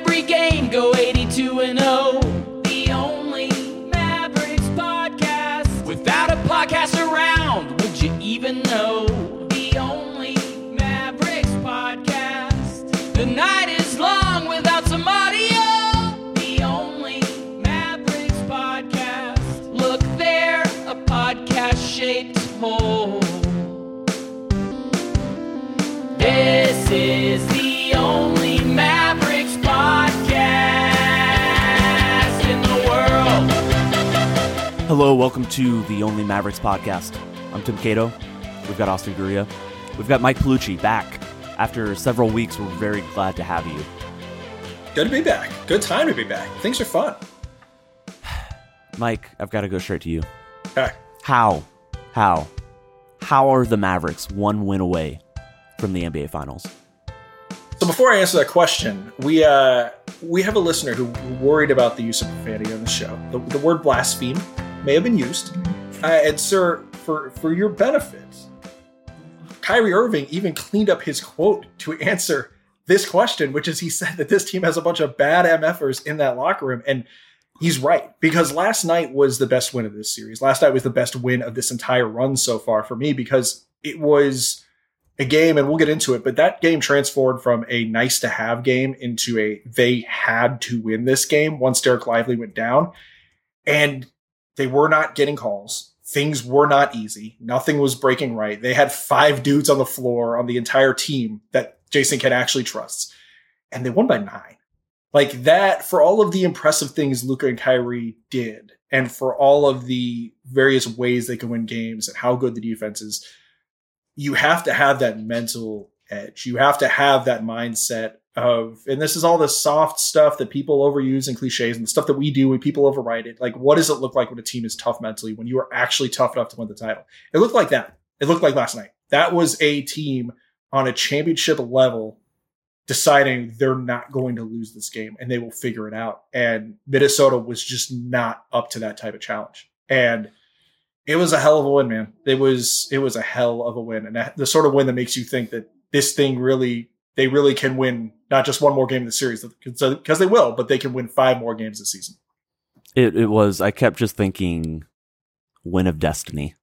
every game, go 82-0. The only Mavericks podcast. Without a podcast around, would you even know? The only Mavericks podcast. The night is long without some audio. The only Mavericks podcast. Look there, a podcast-shaped hole. This is the only Mavericks podcast in the world. Hello, welcome to the Only Mavericks podcast. I'm Tim Cato. We've got Austin Guria. We've got Mike Palucci back. After several weeks, we're very glad to have you. Good to be back. Good time to be back. Things are fun. Mike, I've got to go straight to you. Okay. How are the Mavericks one win away from the NBA Finals? So before I answer that question, we have a listener who worried about the use of profanity on the show. The word blaspheme may have been used. And sir, for your benefit, Kyrie Irving even cleaned up his quote to answer this question, which is he said that this team has a bunch of bad MFers in that locker room. And he's right, because last night was the best win of this series. Last night was the best win of this entire run so far for me, because it was a game, and we'll get into it, but that game transformed from a nice to have game into a they had to win this game once Derek Lively went down. And they were not getting calls. Things were not easy. Nothing was breaking right. They had 5 dudes on the floor on the entire team that Jason Kidd actually trusts. And they won by 9. Like that, for all of the impressive things Luka and Kyrie did, and for all of the various ways they can win games and how good the defense is, you have to have that mental edge. You have to have that mindset of, and this is all the soft stuff that people overuse and cliches and the stuff that we do when people overwrite it. Like, what does it look like when a team is tough mentally, when you are actually tough enough to win the title? It looked like that. It looked like last night. That was a team on a championship level deciding they're not going to lose this game and they will figure it out. And Minnesota was just not up to that type of challenge. And it was a hell of a win, man. It was a hell of a win. And the sort of win that makes you think that this thing they really can win not just one more game in the series, because they will, but they can win 5 more games this season. It was, I kept just thinking, win of destiny.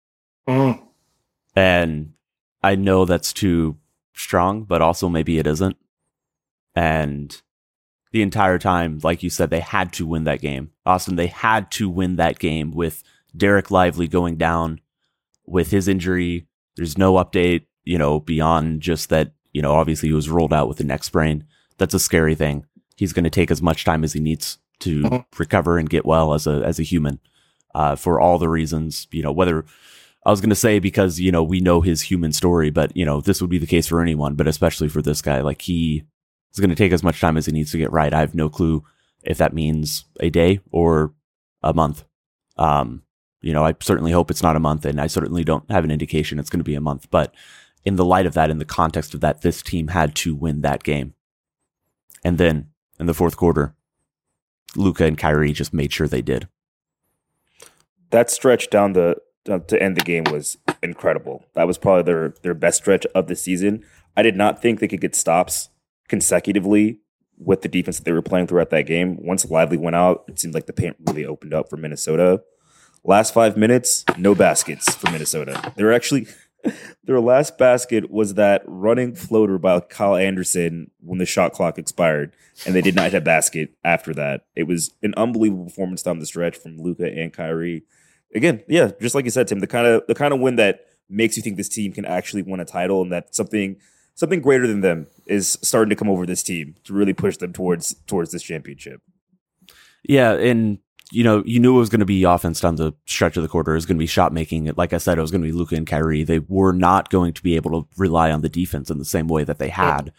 And I know that's too strong, but also maybe it isn't. And the entire time, like you said, they had to win that game. Austin, they had to win that game with Derek Lively going down with his injury. There's no update, beyond just that, obviously he was rolled out with a neck sprain. That's a scary thing. He's going to take as much time as he needs to recover and get well as a human, for all the reasons, whether I was going to say because, we know his human story, but, this would be the case for anyone, but especially for this guy, like he is going to take as much time as he needs to get right. I have no clue if that means a day or a month. I certainly hope it's not a month, and I certainly don't have an indication it's going to be a month. But in the light of that, in the context of that, this team had to win that game. And then in the fourth quarter, Luka and Kyrie just made sure they did. That stretch down to end the game was incredible. That was probably their best stretch of the season. I did not think they could get stops consecutively with the defense that they were playing throughout that game. Once Lively went out, it seemed like the paint really opened up for Minnesota. Last 5 minutes, no baskets for Minnesota. Their last basket was that running floater by Kyle Anderson when the shot clock expired, and they did not hit a basket after that. It was an unbelievable performance down the stretch from Luka and Kyrie. Again, yeah, just like you said, Tim, the kind of win that makes you think this team can actually win a title, and that something greater than them is starting to come over this team to really push them towards this championship. Yeah, and you knew it was going to be offense down the stretch of the quarter. It was going to be shot making. Like I said, it was going to be Luka and Kyrie. They were not going to be able to rely on the defense in the same way that they have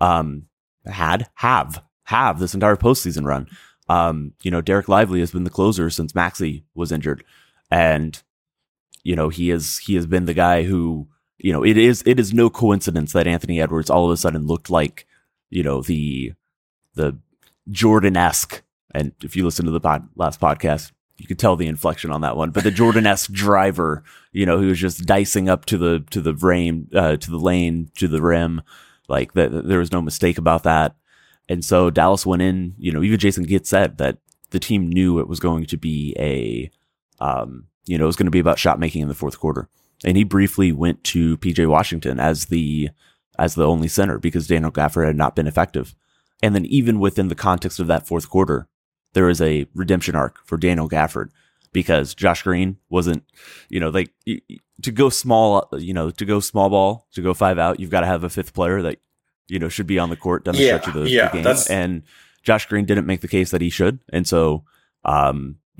this entire postseason run. Derek Lively has been the closer since Maxey was injured, and he has been the guy who it is no coincidence that Anthony Edwards all of a sudden looked like the Jordan-esque. And if you listen to the last podcast, you could tell the inflection on that one. But the Jordan-esque driver, who was just dicing up to the lane, to the rim, like there was no mistake about that. And so Dallas went in, even Jason Kidd said that the team knew it was going to be it was going to be about shot making in the fourth quarter. And he briefly went to PJ Washington as the only center because Daniel Gafford had not been effective. And then even within the context of that fourth quarter, there is a redemption arc for Daniel Gafford because Josh Green wasn't, to go small ball, to go 5 out, you've got to have a fifth player that, should be on the court down the stretch of the game. And Josh Green didn't make the case that he should. And so, I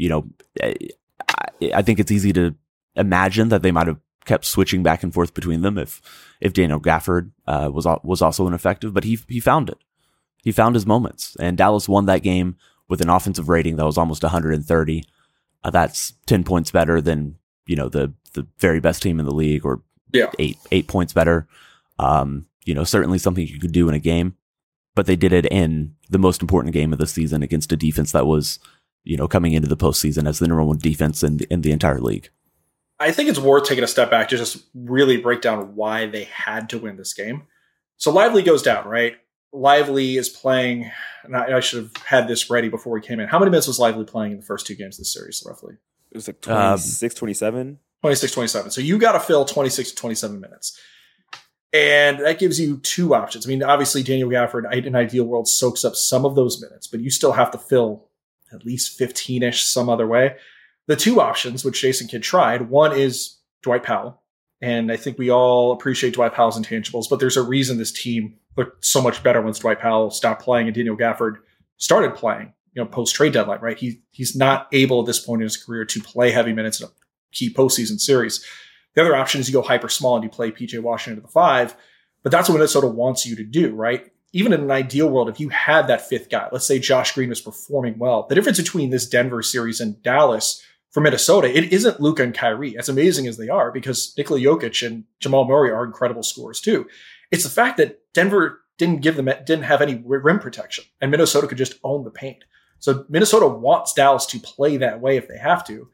think it's easy to imagine that they might have kept switching back and forth between them if Daniel Gafford was also ineffective, but he found it. He found his moments, and Dallas won that game with an offensive rating that was almost 130. That's 10 points better than the very best team in the league, or 8 points better. Certainly something you could do in a game, but they did it in the most important game of the season against a defense that was coming into the postseason as the number one defense in the entire league. I think it's worth taking a step back to just really break down why they had to win this game. So Lively goes down, right? Lively is playing, and I should have had this ready before we came in. How many minutes was Lively playing in the first two games of the series, roughly? It was like 26, 27. 26, 27. So you got to fill 26 to 27 minutes. And that gives you two options. I mean, obviously, Daniel Gafford, in an ideal world, soaks up some of those minutes, but you still have to fill at least 15-ish some other way. The two options, which Jason Kidd tried, one is Dwight Powell. And I think we all appreciate Dwight Powell's intangibles, but there's a reason this team looked so much better once Dwight Powell stopped playing and Daniel Gafford started playing, post-trade deadline, right? He's not able at this point in his career to play heavy minutes in a key postseason series. The other option is you go hyper small and you play PJ Washington to the 5, but that's what Minnesota wants you to do, right? Even in an ideal world, if you had that fifth guy, let's say Josh Green was performing well, the difference between this Denver series and Dallas for Minnesota, it isn't Luka and Kyrie, as amazing as they are, because Nikola Jokic and Jamal Murray are incredible scorers too. It's the fact that Denver didn't have any rim protection, and Minnesota could just own the paint. So Minnesota wants Dallas to play that way if they have to.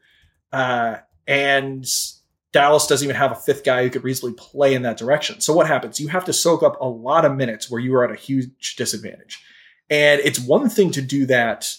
And Dallas doesn't even have a fifth guy who could reasonably play in that direction. So what happens? You have to soak up a lot of minutes where you are at a huge disadvantage. And it's one thing to do that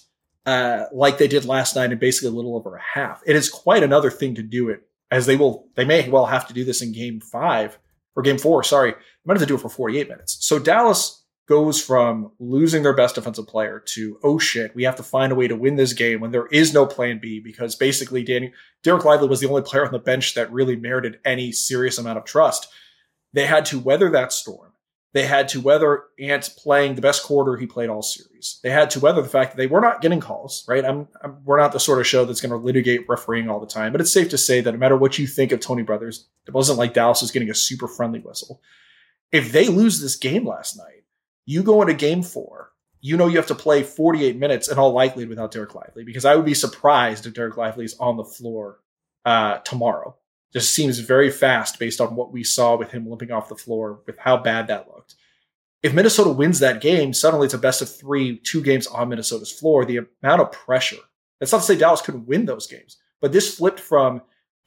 like they did last night in basically a little over a half. It is quite another thing to do it, as they may well have to do this in game 4. They might have to do it for 48 minutes. So Dallas goes from losing their best defensive player to, oh shit, we have to find a way to win this game when there is no plan B, because basically Derek Lively was the only player on the bench that really merited any serious amount of trust. They had to weather that storm. They had to weather Ant playing the best quarter he played all series. They had to weather the fact that they were not getting calls, right? We're not the sort of show that's going to litigate refereeing all the time, but it's safe to say that no matter what you think of Tony Brothers, it wasn't like Dallas was getting a super friendly whistle. If they lose this game last night, you go into game 4, you have to play 48 minutes in all likelihood without Derek Lively, because I would be surprised if Derek Lively is on the floor tomorrow. Just seems very fast based on what we saw with him limping off the floor, with how bad that looked. If Minnesota wins that game, suddenly it's a best of 3, 2 games on Minnesota's floor. The amount of pressure. That's not to say Dallas couldn't win those games, but this flipped from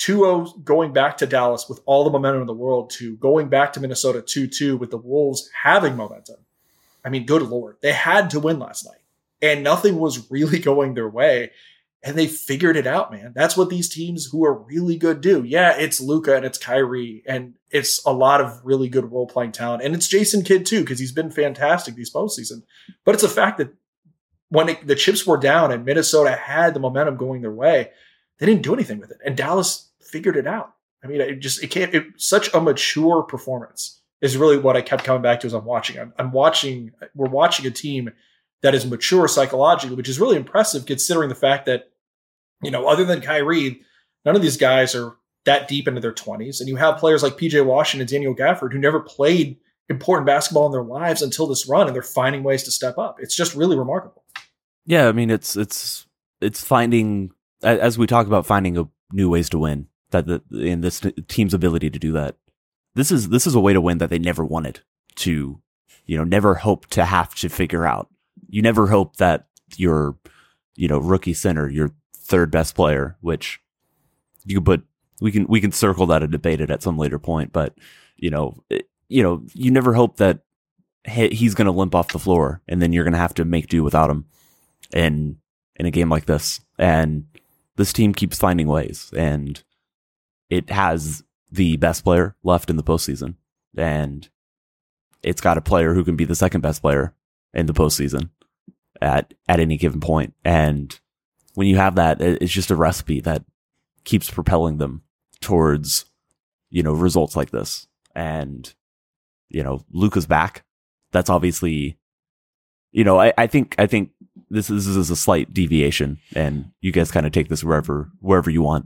2-0 going back to Dallas with all the momentum in the world to going back to Minnesota 2-2 with the Wolves having momentum. I mean, good Lord. They had to win last night, and nothing was really going their way. And they figured it out, man. That's what these teams who are really good do. Yeah, it's Luka and it's Kyrie, and it's a lot of really good role-playing talent. And it's Jason Kidd, too, because he's been fantastic these postseason. But it's a fact that when the chips were down and Minnesota had the momentum going their way, they didn't do anything with it. And Dallas figured it out. I mean, such a mature performance is really what I kept coming back to as I'm watching. We're watching a team that is mature psychologically, which is really impressive considering the fact that, other than Kyrie, none of these guys are that deep into their 20s. And you have players like PJ Washington and Daniel Gafford who never played important basketball in their lives until this run, and they're finding ways to step up. It's just really remarkable. Yeah, I mean, it's finding, as we talk about finding new ways to win, in this team's ability to do that. This is a way to win that they never wanted to, never hoped to have to figure out. You never hope that your, rookie center, your third best player, which you could put, we can circle that and debate it at some later point, but you never hope that he's going to limp off the floor, and then you're going to have to make do without him in a game like this. And this team keeps finding ways, and it has the best player left in the postseason, and it's got a player who can be the second best player in the postseason at any given point. And when you have that, it's just a recipe that keeps propelling them towards, results like this. And, Luka's back. That's obviously, I think this is a slight deviation, and you guys kind of take this wherever you want.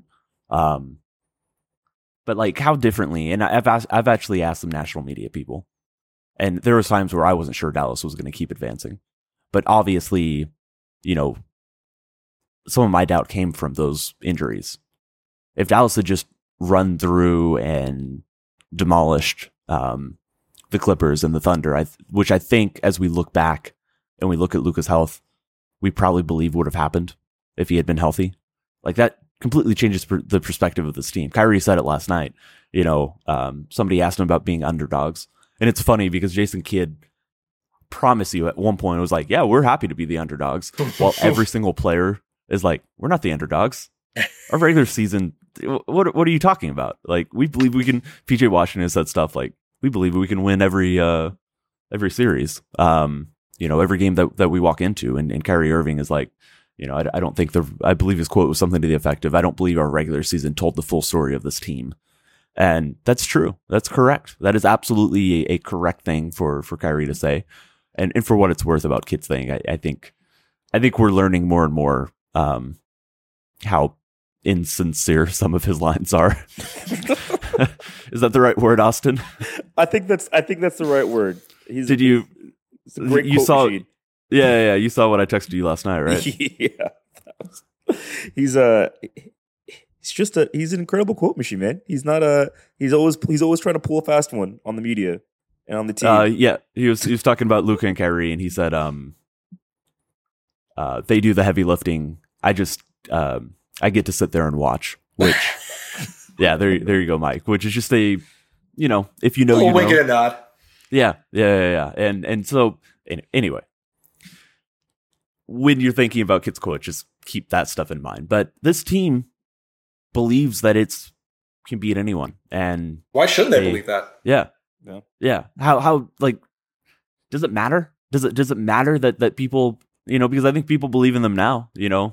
But like, how differently? And I've actually asked some national media people, and there was times where I wasn't sure Dallas was going to keep advancing, but obviously, some of my doubt came from those injuries. If Dallas had just run through and demolished the Clippers and the Thunder, which I think, as we look back and we look at Luka's health, we probably believe would have happened if he had been healthy. Like, that completely changes the perspective of this team. Kyrie said it last night. Somebody asked him about being underdogs, and it's funny because Jason Kidd promised you at one point, it was like, yeah, we're happy to be the underdogs, while every single player is like, we're not the underdogs. Our regular season, what are you talking about? Like, we believe we can. PJ Washington said stuff like, we believe we can win every series, every game that we walk into. And Kyrie Irving is like, I don't think I believe his quote was something to the effect of, I don't believe our regular season told the full story of this team. And that's true. That's correct. That is absolutely a correct thing for Kyrie to say. And for what it's worth about Kidd's thing, I think we're learning more and more how insincere some of his lines are. Is that the right word, Austin? I think that's the right word. It's a great quote saw? machine. Yeah. You saw what I texted you last night, right? Yeah. He's an incredible quote machine, man. He's always trying to pull a fast one on the media and on the team. Yeah. He was talking about Luka and Kyrie, and he said they do the heavy lifting. I get to sit there and watch, which yeah, there you go, Mike, which is just a, if you know, we'll wink and a nod. Yeah. And so anyway, when you're thinking about Kidd's quote, just keep that stuff in mind. But this team believes that it can beat anyone. And why shouldn't they believe that? Yeah. How like, does it matter? Does it matter that people, because I think people believe in them now,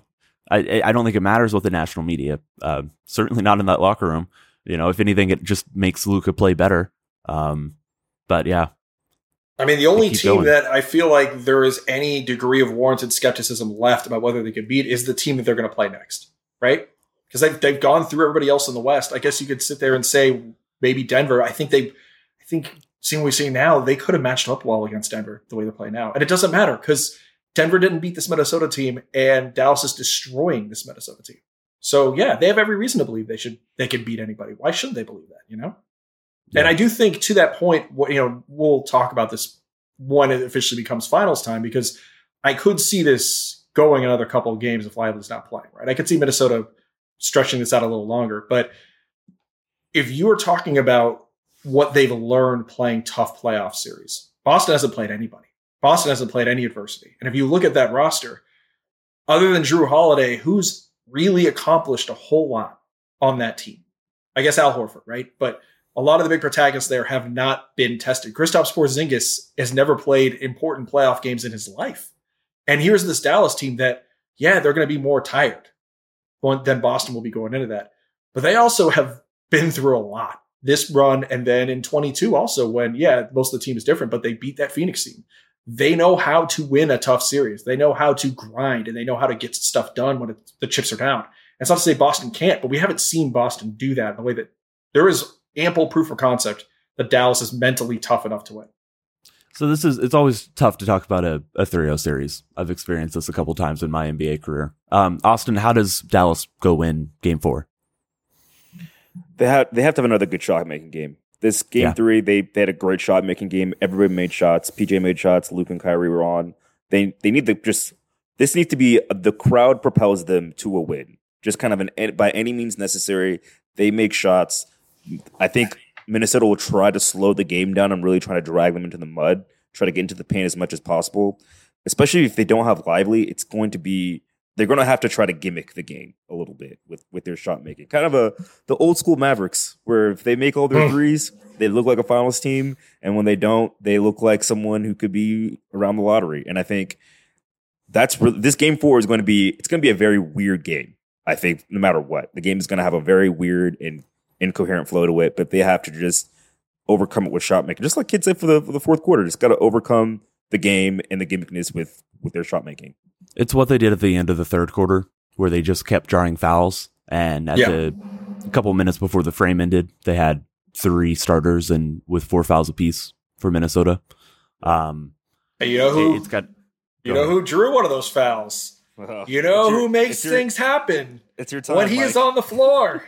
I don't think it matters what the national media, certainly not in that locker room. If anything, it just makes Luka play better. But yeah. I mean, the only team that I feel like there is any degree of warranted skepticism left about whether they could beat is the team that they're going to play next, right? Because they've gone through everybody else in the West. I guess you could sit there and say maybe Denver. I think seeing what we're seeing now, they could have matched up well against Denver the way they play now. And it doesn't matter because Denver didn't beat this Minnesota team, and Dallas is destroying this Minnesota team. So yeah, they have every reason to believe they can beat anybody. Why shouldn't they believe that? Yeah. And I do think to that point, we'll talk about this when it officially becomes finals time, because I could see this going another couple of games if Lively's not playing, right? I could see Minnesota stretching this out a little longer. But if you are talking about what they've learned playing tough playoff series, Boston hasn't played anybody. Boston hasn't played any adversity. And if you look at that roster, other than Drew Holiday, who's really accomplished a whole lot on that team? I guess Al Horford, right? But a lot of the big protagonists there have not been tested. Kristaps Porzingis has never played important playoff games in his life. And here's this Dallas team that, they're going to be more tired than Boston will be going into that. But they also have been through a lot this run. And then in 22 also when, most of the team is different, but they beat that Phoenix team. They know how to win a tough series. They know how to grind, and they know how to get stuff done when the chips are down. It's not to say Boston can't, but we haven't seen Boston do that in the way that there is ample proof of concept that Dallas is mentally tough enough to win. So it's always tough to talk about a 3-0 series. I've experienced this a couple times in my NBA career. Austin, how does Dallas go win game 4? They have to have another good shot making game. This game 3, they had a great shot making game. Everybody made shots. PJ made shots. Luke and Kyrie were on. They need to this needs to be the crowd propels them to a win. Just kind of by any means necessary. They make shots. I think Minnesota will try to slow the game down and really try to drag them into the mud try to get into the paint as much as possible. Especially if they don't have Lively, they're going to have to try to gimmick the game a little bit with their shot making. Kind of the old school Mavericks, where if they make all their threes, they look like a finals team, and when they don't, they look like someone who could be around the lottery. And I think this game 4 is going to be a very weird game. I think no matter what, the game is going to have a very weird and incoherent flow to it, but they have to just overcome it with shot making. Just like kids said for the fourth quarter, just got to overcome the game and the gimmickness with their shot making. It's what they did at the end of the third quarter, where they just kept drawing fouls. And at a couple minutes before the frame ended, they had 3 starters and with 4 fouls apiece for Minnesota. Hey, you know who drew one of those fouls? You know who makes things happen? It's your time when he is on the floor.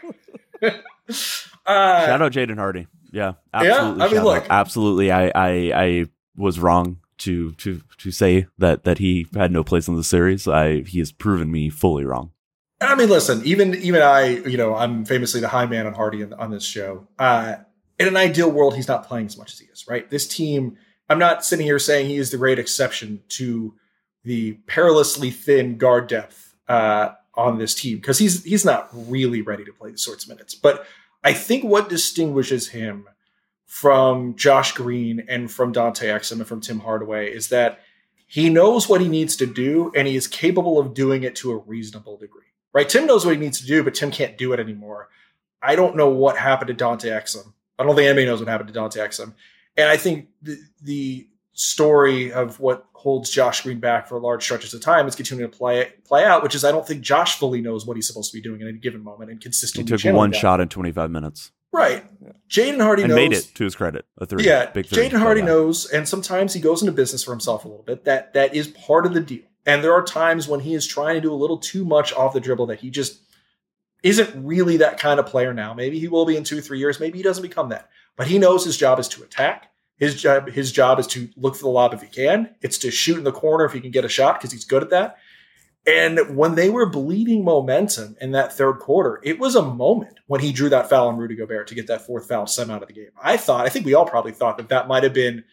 Shout out Jaden Hardy. Yeah, absolutely. Yeah, look, absolutely. I was wrong to say that he had no place in the series. He has proven me fully wrong. I mean, listen, even I, I'm famously the high man on Hardy on this show. In an ideal world, he's not playing as much as he is, right? This team, I'm not sitting here saying he is the great exception to the perilously thin guard depth on this team, because he's not really ready to play the sorts of minutes. But I think what distinguishes him from Josh Green and from Dante Exum and from Tim Hardaway is that he knows what he needs to do, and he is capable of doing it to a reasonable degree. Right? Tim knows what he needs to do, but Tim can't do it anymore. I don't know what happened to Dante Exum. I don't think anybody knows what happened to Dante Exum. And I think the story of what holds Josh Green back for large stretches of time is continuing to play out, which is I don't think Josh fully knows what he's supposed to be doing in a given moment and consistently. He took one shot in 25 minutes. Right. Jaden Hardy knows. Made it, to his credit. A 3. Yeah. Big 3. Jaden Hardy knows, and sometimes he goes into business for himself a little bit. That is part of the deal. And there are times when he is trying to do a little too much off the dribble that he just isn't really that kind of player now. Maybe he will be in 2-3 years. Maybe he doesn't become that. But he knows his job is to attack. His job is to look for the lob if he can. It's to shoot in the corner if he can get a shot, because he's good at that. And when they were bleeding momentum in that third quarter, it was a moment when he drew that foul on Rudy Gobert to get that 4th foul sent out of the game. I think we all probably thought that might have been,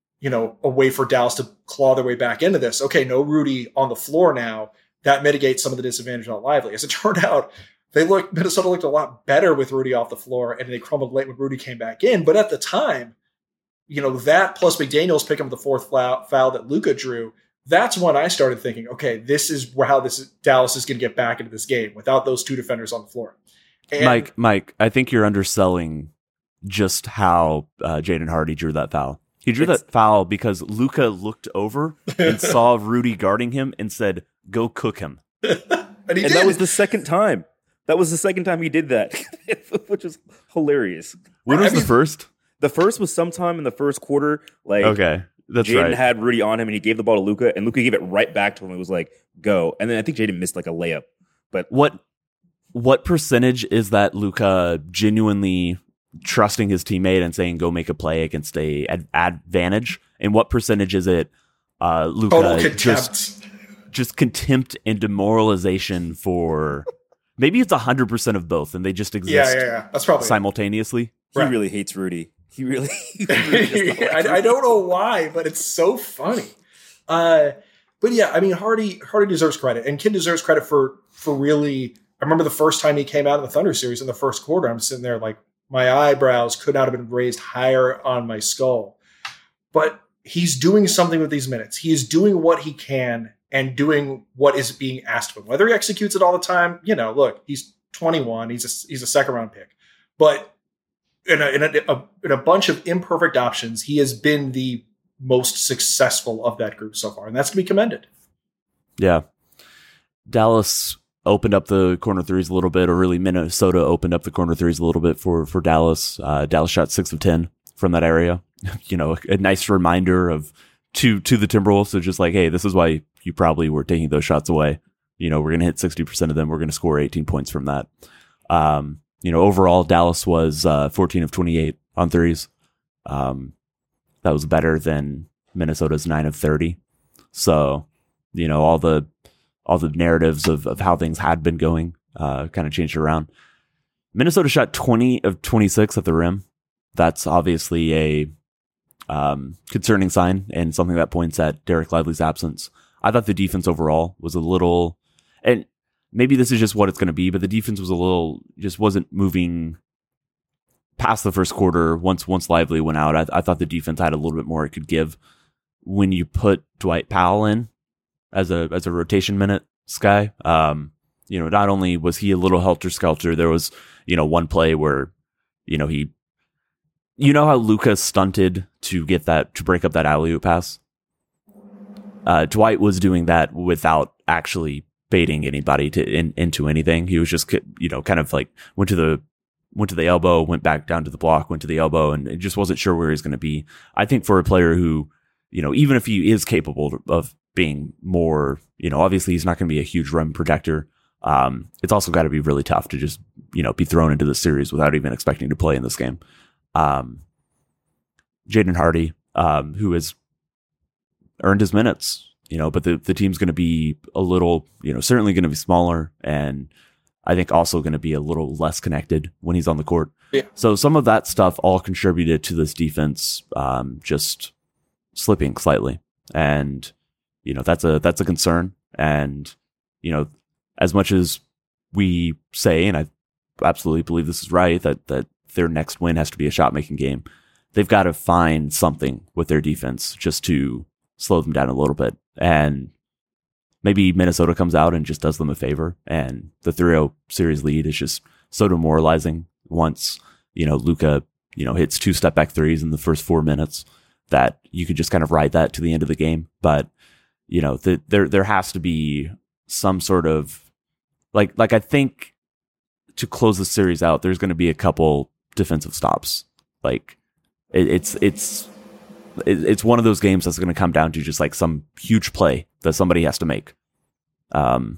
a way for Dallas to claw their way back into this. Okay, no Rudy on the floor now. That mitigates some of the disadvantage on Lively. As it turned out, Minnesota looked a lot better with Rudy off the floor, and they crumbled late when Rudy came back in. But at the time, that plus McDaniels picking up the 4th foul that Luka drew, that's when I started thinking, okay, this is how Dallas is going to get back into this game without those 2 defenders on the floor. And Mike, I think you're underselling just how Jaden Hardy drew that foul. He drew that foul because Luka looked over and saw Rudy guarding him and said, "Go cook him." and that was the second time. That was the second time he did that, which was hilarious. When was the first? The first was sometime in the first quarter. Okay, that's Jaden right. had Rudy on him, and he gave the ball to Luka, and Luka gave it right back to him. It was like, "Go!" And then I think Jaden missed like a layup. But what percentage is that Luka genuinely trusting his teammate and saying go make a play against a advantage, and what percentage is it Luka just contempt and demoralization for maybe it's 100% of both and they just exist that's probably simultaneously. He really hates Rudy. He really I don't know why, but it's so funny. But yeah, I mean Hardy deserves credit, and Kidd deserves credit for really. I remember the first time he came out in the Thunder series in the first quarter, I'm sitting there like my eyebrows could not have been raised higher on my skull. But he's doing something with these minutes. He is doing what he can and doing what is being asked of him. Whether he executes it all the time, look, he's 21. He's a second round pick. But in a bunch of imperfect options, he has been the most successful of that group so far, and that's to be commended. Yeah. Dallas opened up the corner threes a little bit, or really Minnesota opened up the corner threes a little bit for Dallas. Dallas shot 6 of 10 from that area. A nice reminder to the Timberwolves. So just like, hey, this is why you probably were taking those shots away. We're going to hit 60% of them. We're going to score 18 points from that. Overall, Dallas was 14 of 28 on threes. That was better than Minnesota's 9 of 30. So, all the narratives of how things had been going kind of changed around. Minnesota shot 20 of 26 at the rim. That's obviously concerning sign and something that points at Derek Lively's absence. I thought the defense overall was a little, and maybe this is just what it's going to be, but the defense was a little, just wasn't moving past the first quarter. Once Lively went out, I thought the defense had a little bit more it could give. When you put Dwight Powell in as a rotation minute guy, not only was he a little helter-skelter, there was, one play where, how Luka stunted to break up that alley-oop pass? Dwight was doing that without actually baiting anybody into anything. He was just, kind of like went to the elbow, went back down to the block, went to the elbow, and it just wasn't sure where he's going to be. I think for a player who, even if he is capable of being more, obviously he's not going to be a huge rim protector. It's also got to be really tough to just, be thrown into the series without even expecting to play in this game. Jaden Hardy, who has earned his minutes, but the team's going to be a little, certainly going to be smaller, and I think also going to be a little less connected when he's on the court. Yeah. So some of that stuff all contributed to this defense just slipping slightly, and that's a concern. And as much as we say, and I absolutely believe this is right, that their next win has to be a shot making game, they've got to find something with their defense just to slow them down a little bit. And maybe Minnesota comes out and just does them a favor, and the 3-0 series lead is just so demoralizing once, Luka, hits 2 step back threes in the first 4 minutes, that you could just kind of ride that to the end of the game. But, there has to be some sort of like I think to close the series out, there's going to be a couple defensive stops. Like it's one of those games that's going to come down to just like some huge play that somebody has to make. And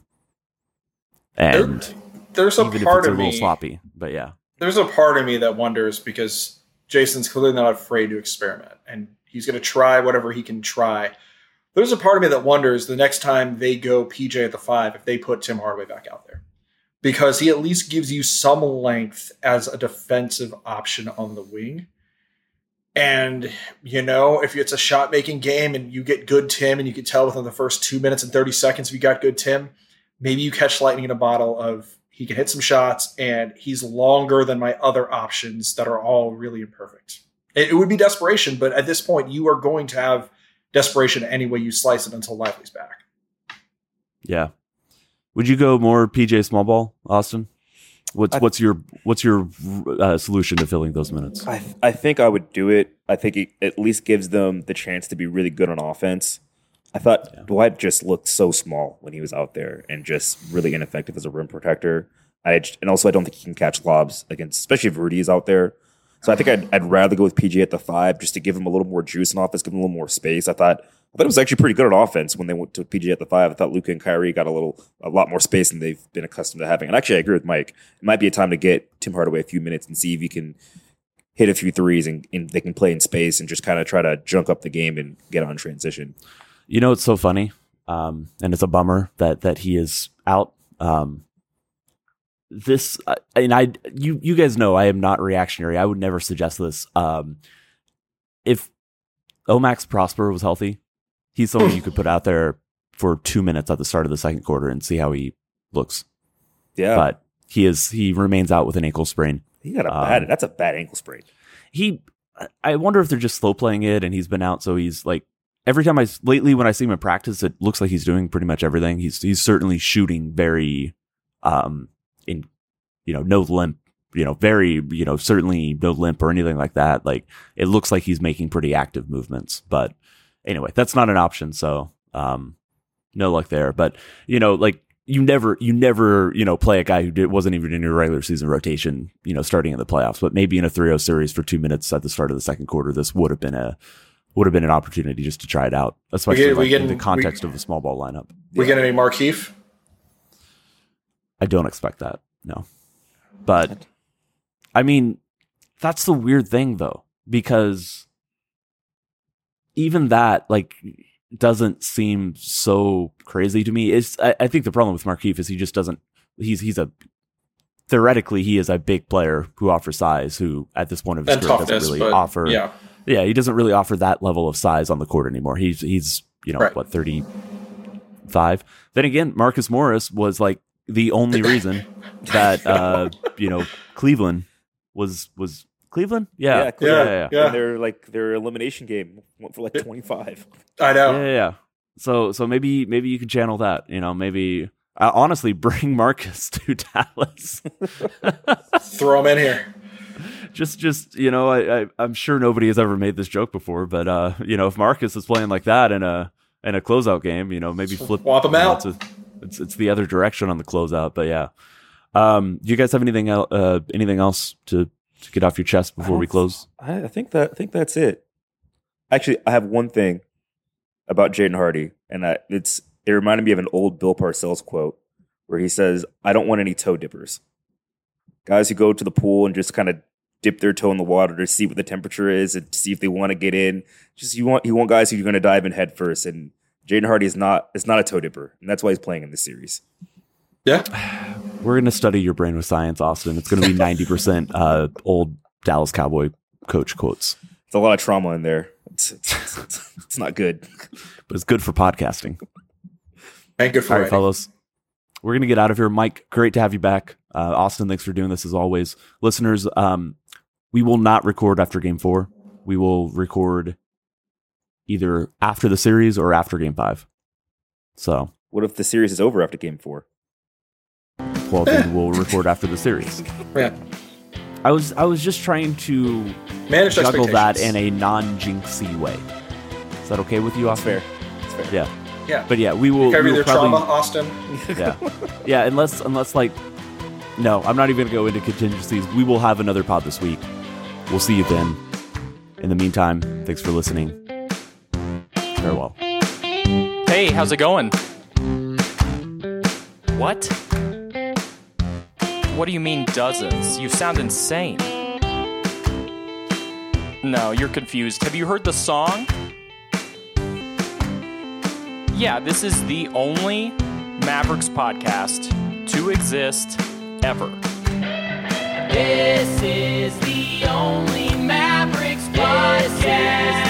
there's a even part if it's of a little me sloppy, but yeah, there's a part of me that wonders, because Jason's clearly not afraid to experiment and he's going to try whatever he can try. There's a part of me that wonders the next time they go PJ at the 5, if they put Tim Hardaway back out there, because he at least gives you some length as a defensive option on the wing. And, if it's a shot-making game and you get good Tim, and you can tell within the first 2 minutes and 30 seconds if you got good Tim, maybe you catch lightning in a bottle of he can hit some shots and he's longer than my other options that are all really imperfect. It would be desperation, but at this point you are going to have desperation any way you slice it until Lively's back. Yeah. Would you go more PJ small ball, Austin? What's your solution to filling those minutes? I think I would do it. I think it at least gives them the chance to be really good on offense. I thought Dwight just looked so small when he was out there and just really ineffective as a rim protector. And also I don't think he can catch lobs against, especially if Rudy is out there. So I think I'd rather go with PJ at the 5 just to give him a little more juice in offense, give him a little more space. I thought it was actually pretty good on offense when they went to PJ at the 5. I thought Luka and Kyrie got a lot more space than they've been accustomed to having. And actually, I agree with Mike. It might be a time to get Tim Hardaway a few minutes and see if he can hit a few threes and they can play in space and just kind of try to junk up the game and get on transition. It's so funny, and it's a bummer that he is out. You guys know I am not reactionary. I would never suggest this. If Omax Prosper was healthy, he's someone you could put out there for 2 minutes at the start of the second quarter and see how he looks. Yeah, but he remains out with an ankle sprain. He got that's a bad ankle sprain. I wonder if they're just slow playing it, and he's been out, so he's like every time lately when I see him in practice, it looks like he's doing pretty much everything. He's certainly shooting very no limp, certainly no limp or anything like that. Like it looks like he's making pretty active movements, but anyway, that's not an option. So, no luck there, but you never, play a guy who wasn't even in your regular season rotation, starting in the playoffs, but maybe in a 3-0 series for 2 minutes at the start of the second quarter, this would have been an opportunity just to try it out, especially in the context of a small ball lineup. We get any Markieff? I don't expect that. No. But I mean, that's the weird thing though, because even that doesn't seem so crazy to me. I think the problem with Markieff is he just doesn't, theoretically he is a big player who offers size, who at this point of his career doesn't really offer Yeah, he doesn't really offer that level of size on the court anymore. He's Right. what, 35? Then again, Marcus Morris was like the only reason that Cleveland was Cleveland? Yeah. Cleveland. Yeah. And their elimination game went for like 25. I know. Yeah. So maybe you could channel that, maybe honestly bring Marcus to Dallas. Throw him in here. just I'm sure nobody has ever made this joke before, but if Marcus is playing like that in a closeout game, maybe flip Swap him out. It's the other direction on the closeout, but yeah. Do you guys have anything else to get off your chest before we close? I think that's it. Actually, I have one thing about Jaden Hardy, and it reminded me of an old Bill Parcells quote where he says, "I don't want any toe dippers. Guys who go to the pool and just kind of dip their toe in the water to see what the temperature is and see if they want to get in. Just you want guys who are going to dive in head first. And Jaden Hardy is not a toe dipper, and that's why he's playing in this series. Yeah, we're going to study your brain with science, Austin. It's going to be 90% old Dallas Cowboy coach quotes. It's a lot of trauma in there. It's not good, but it's good for podcasting. And good for all right, writing. fellas. We're going to get out of here. Mike, great to have you back. Austin, thanks for doing this as always. Listeners, we will not record after Game 4. We will record either after the series or after Game 5. So, what if the series is over after Game 4? Well, then we'll record after the series. Yeah. I was just trying to manage juggle that in a non-jinxy way. Is that okay with you, Austin? It's fair. Yeah. Yeah. But yeah, we will carry their probably, trauma, Austin. Yeah, unless like, no, I'm not even going to go into contingencies. We will have another pod this week. We'll see you then. In the meantime, thanks for listening. Farewell. Hey, how's it going? What? What do you mean dozens? You sound insane. No, you're confused. Have you heard the song? Yeah, this is the only Mavericks podcast to exist ever. This is the only Mavericks podcast.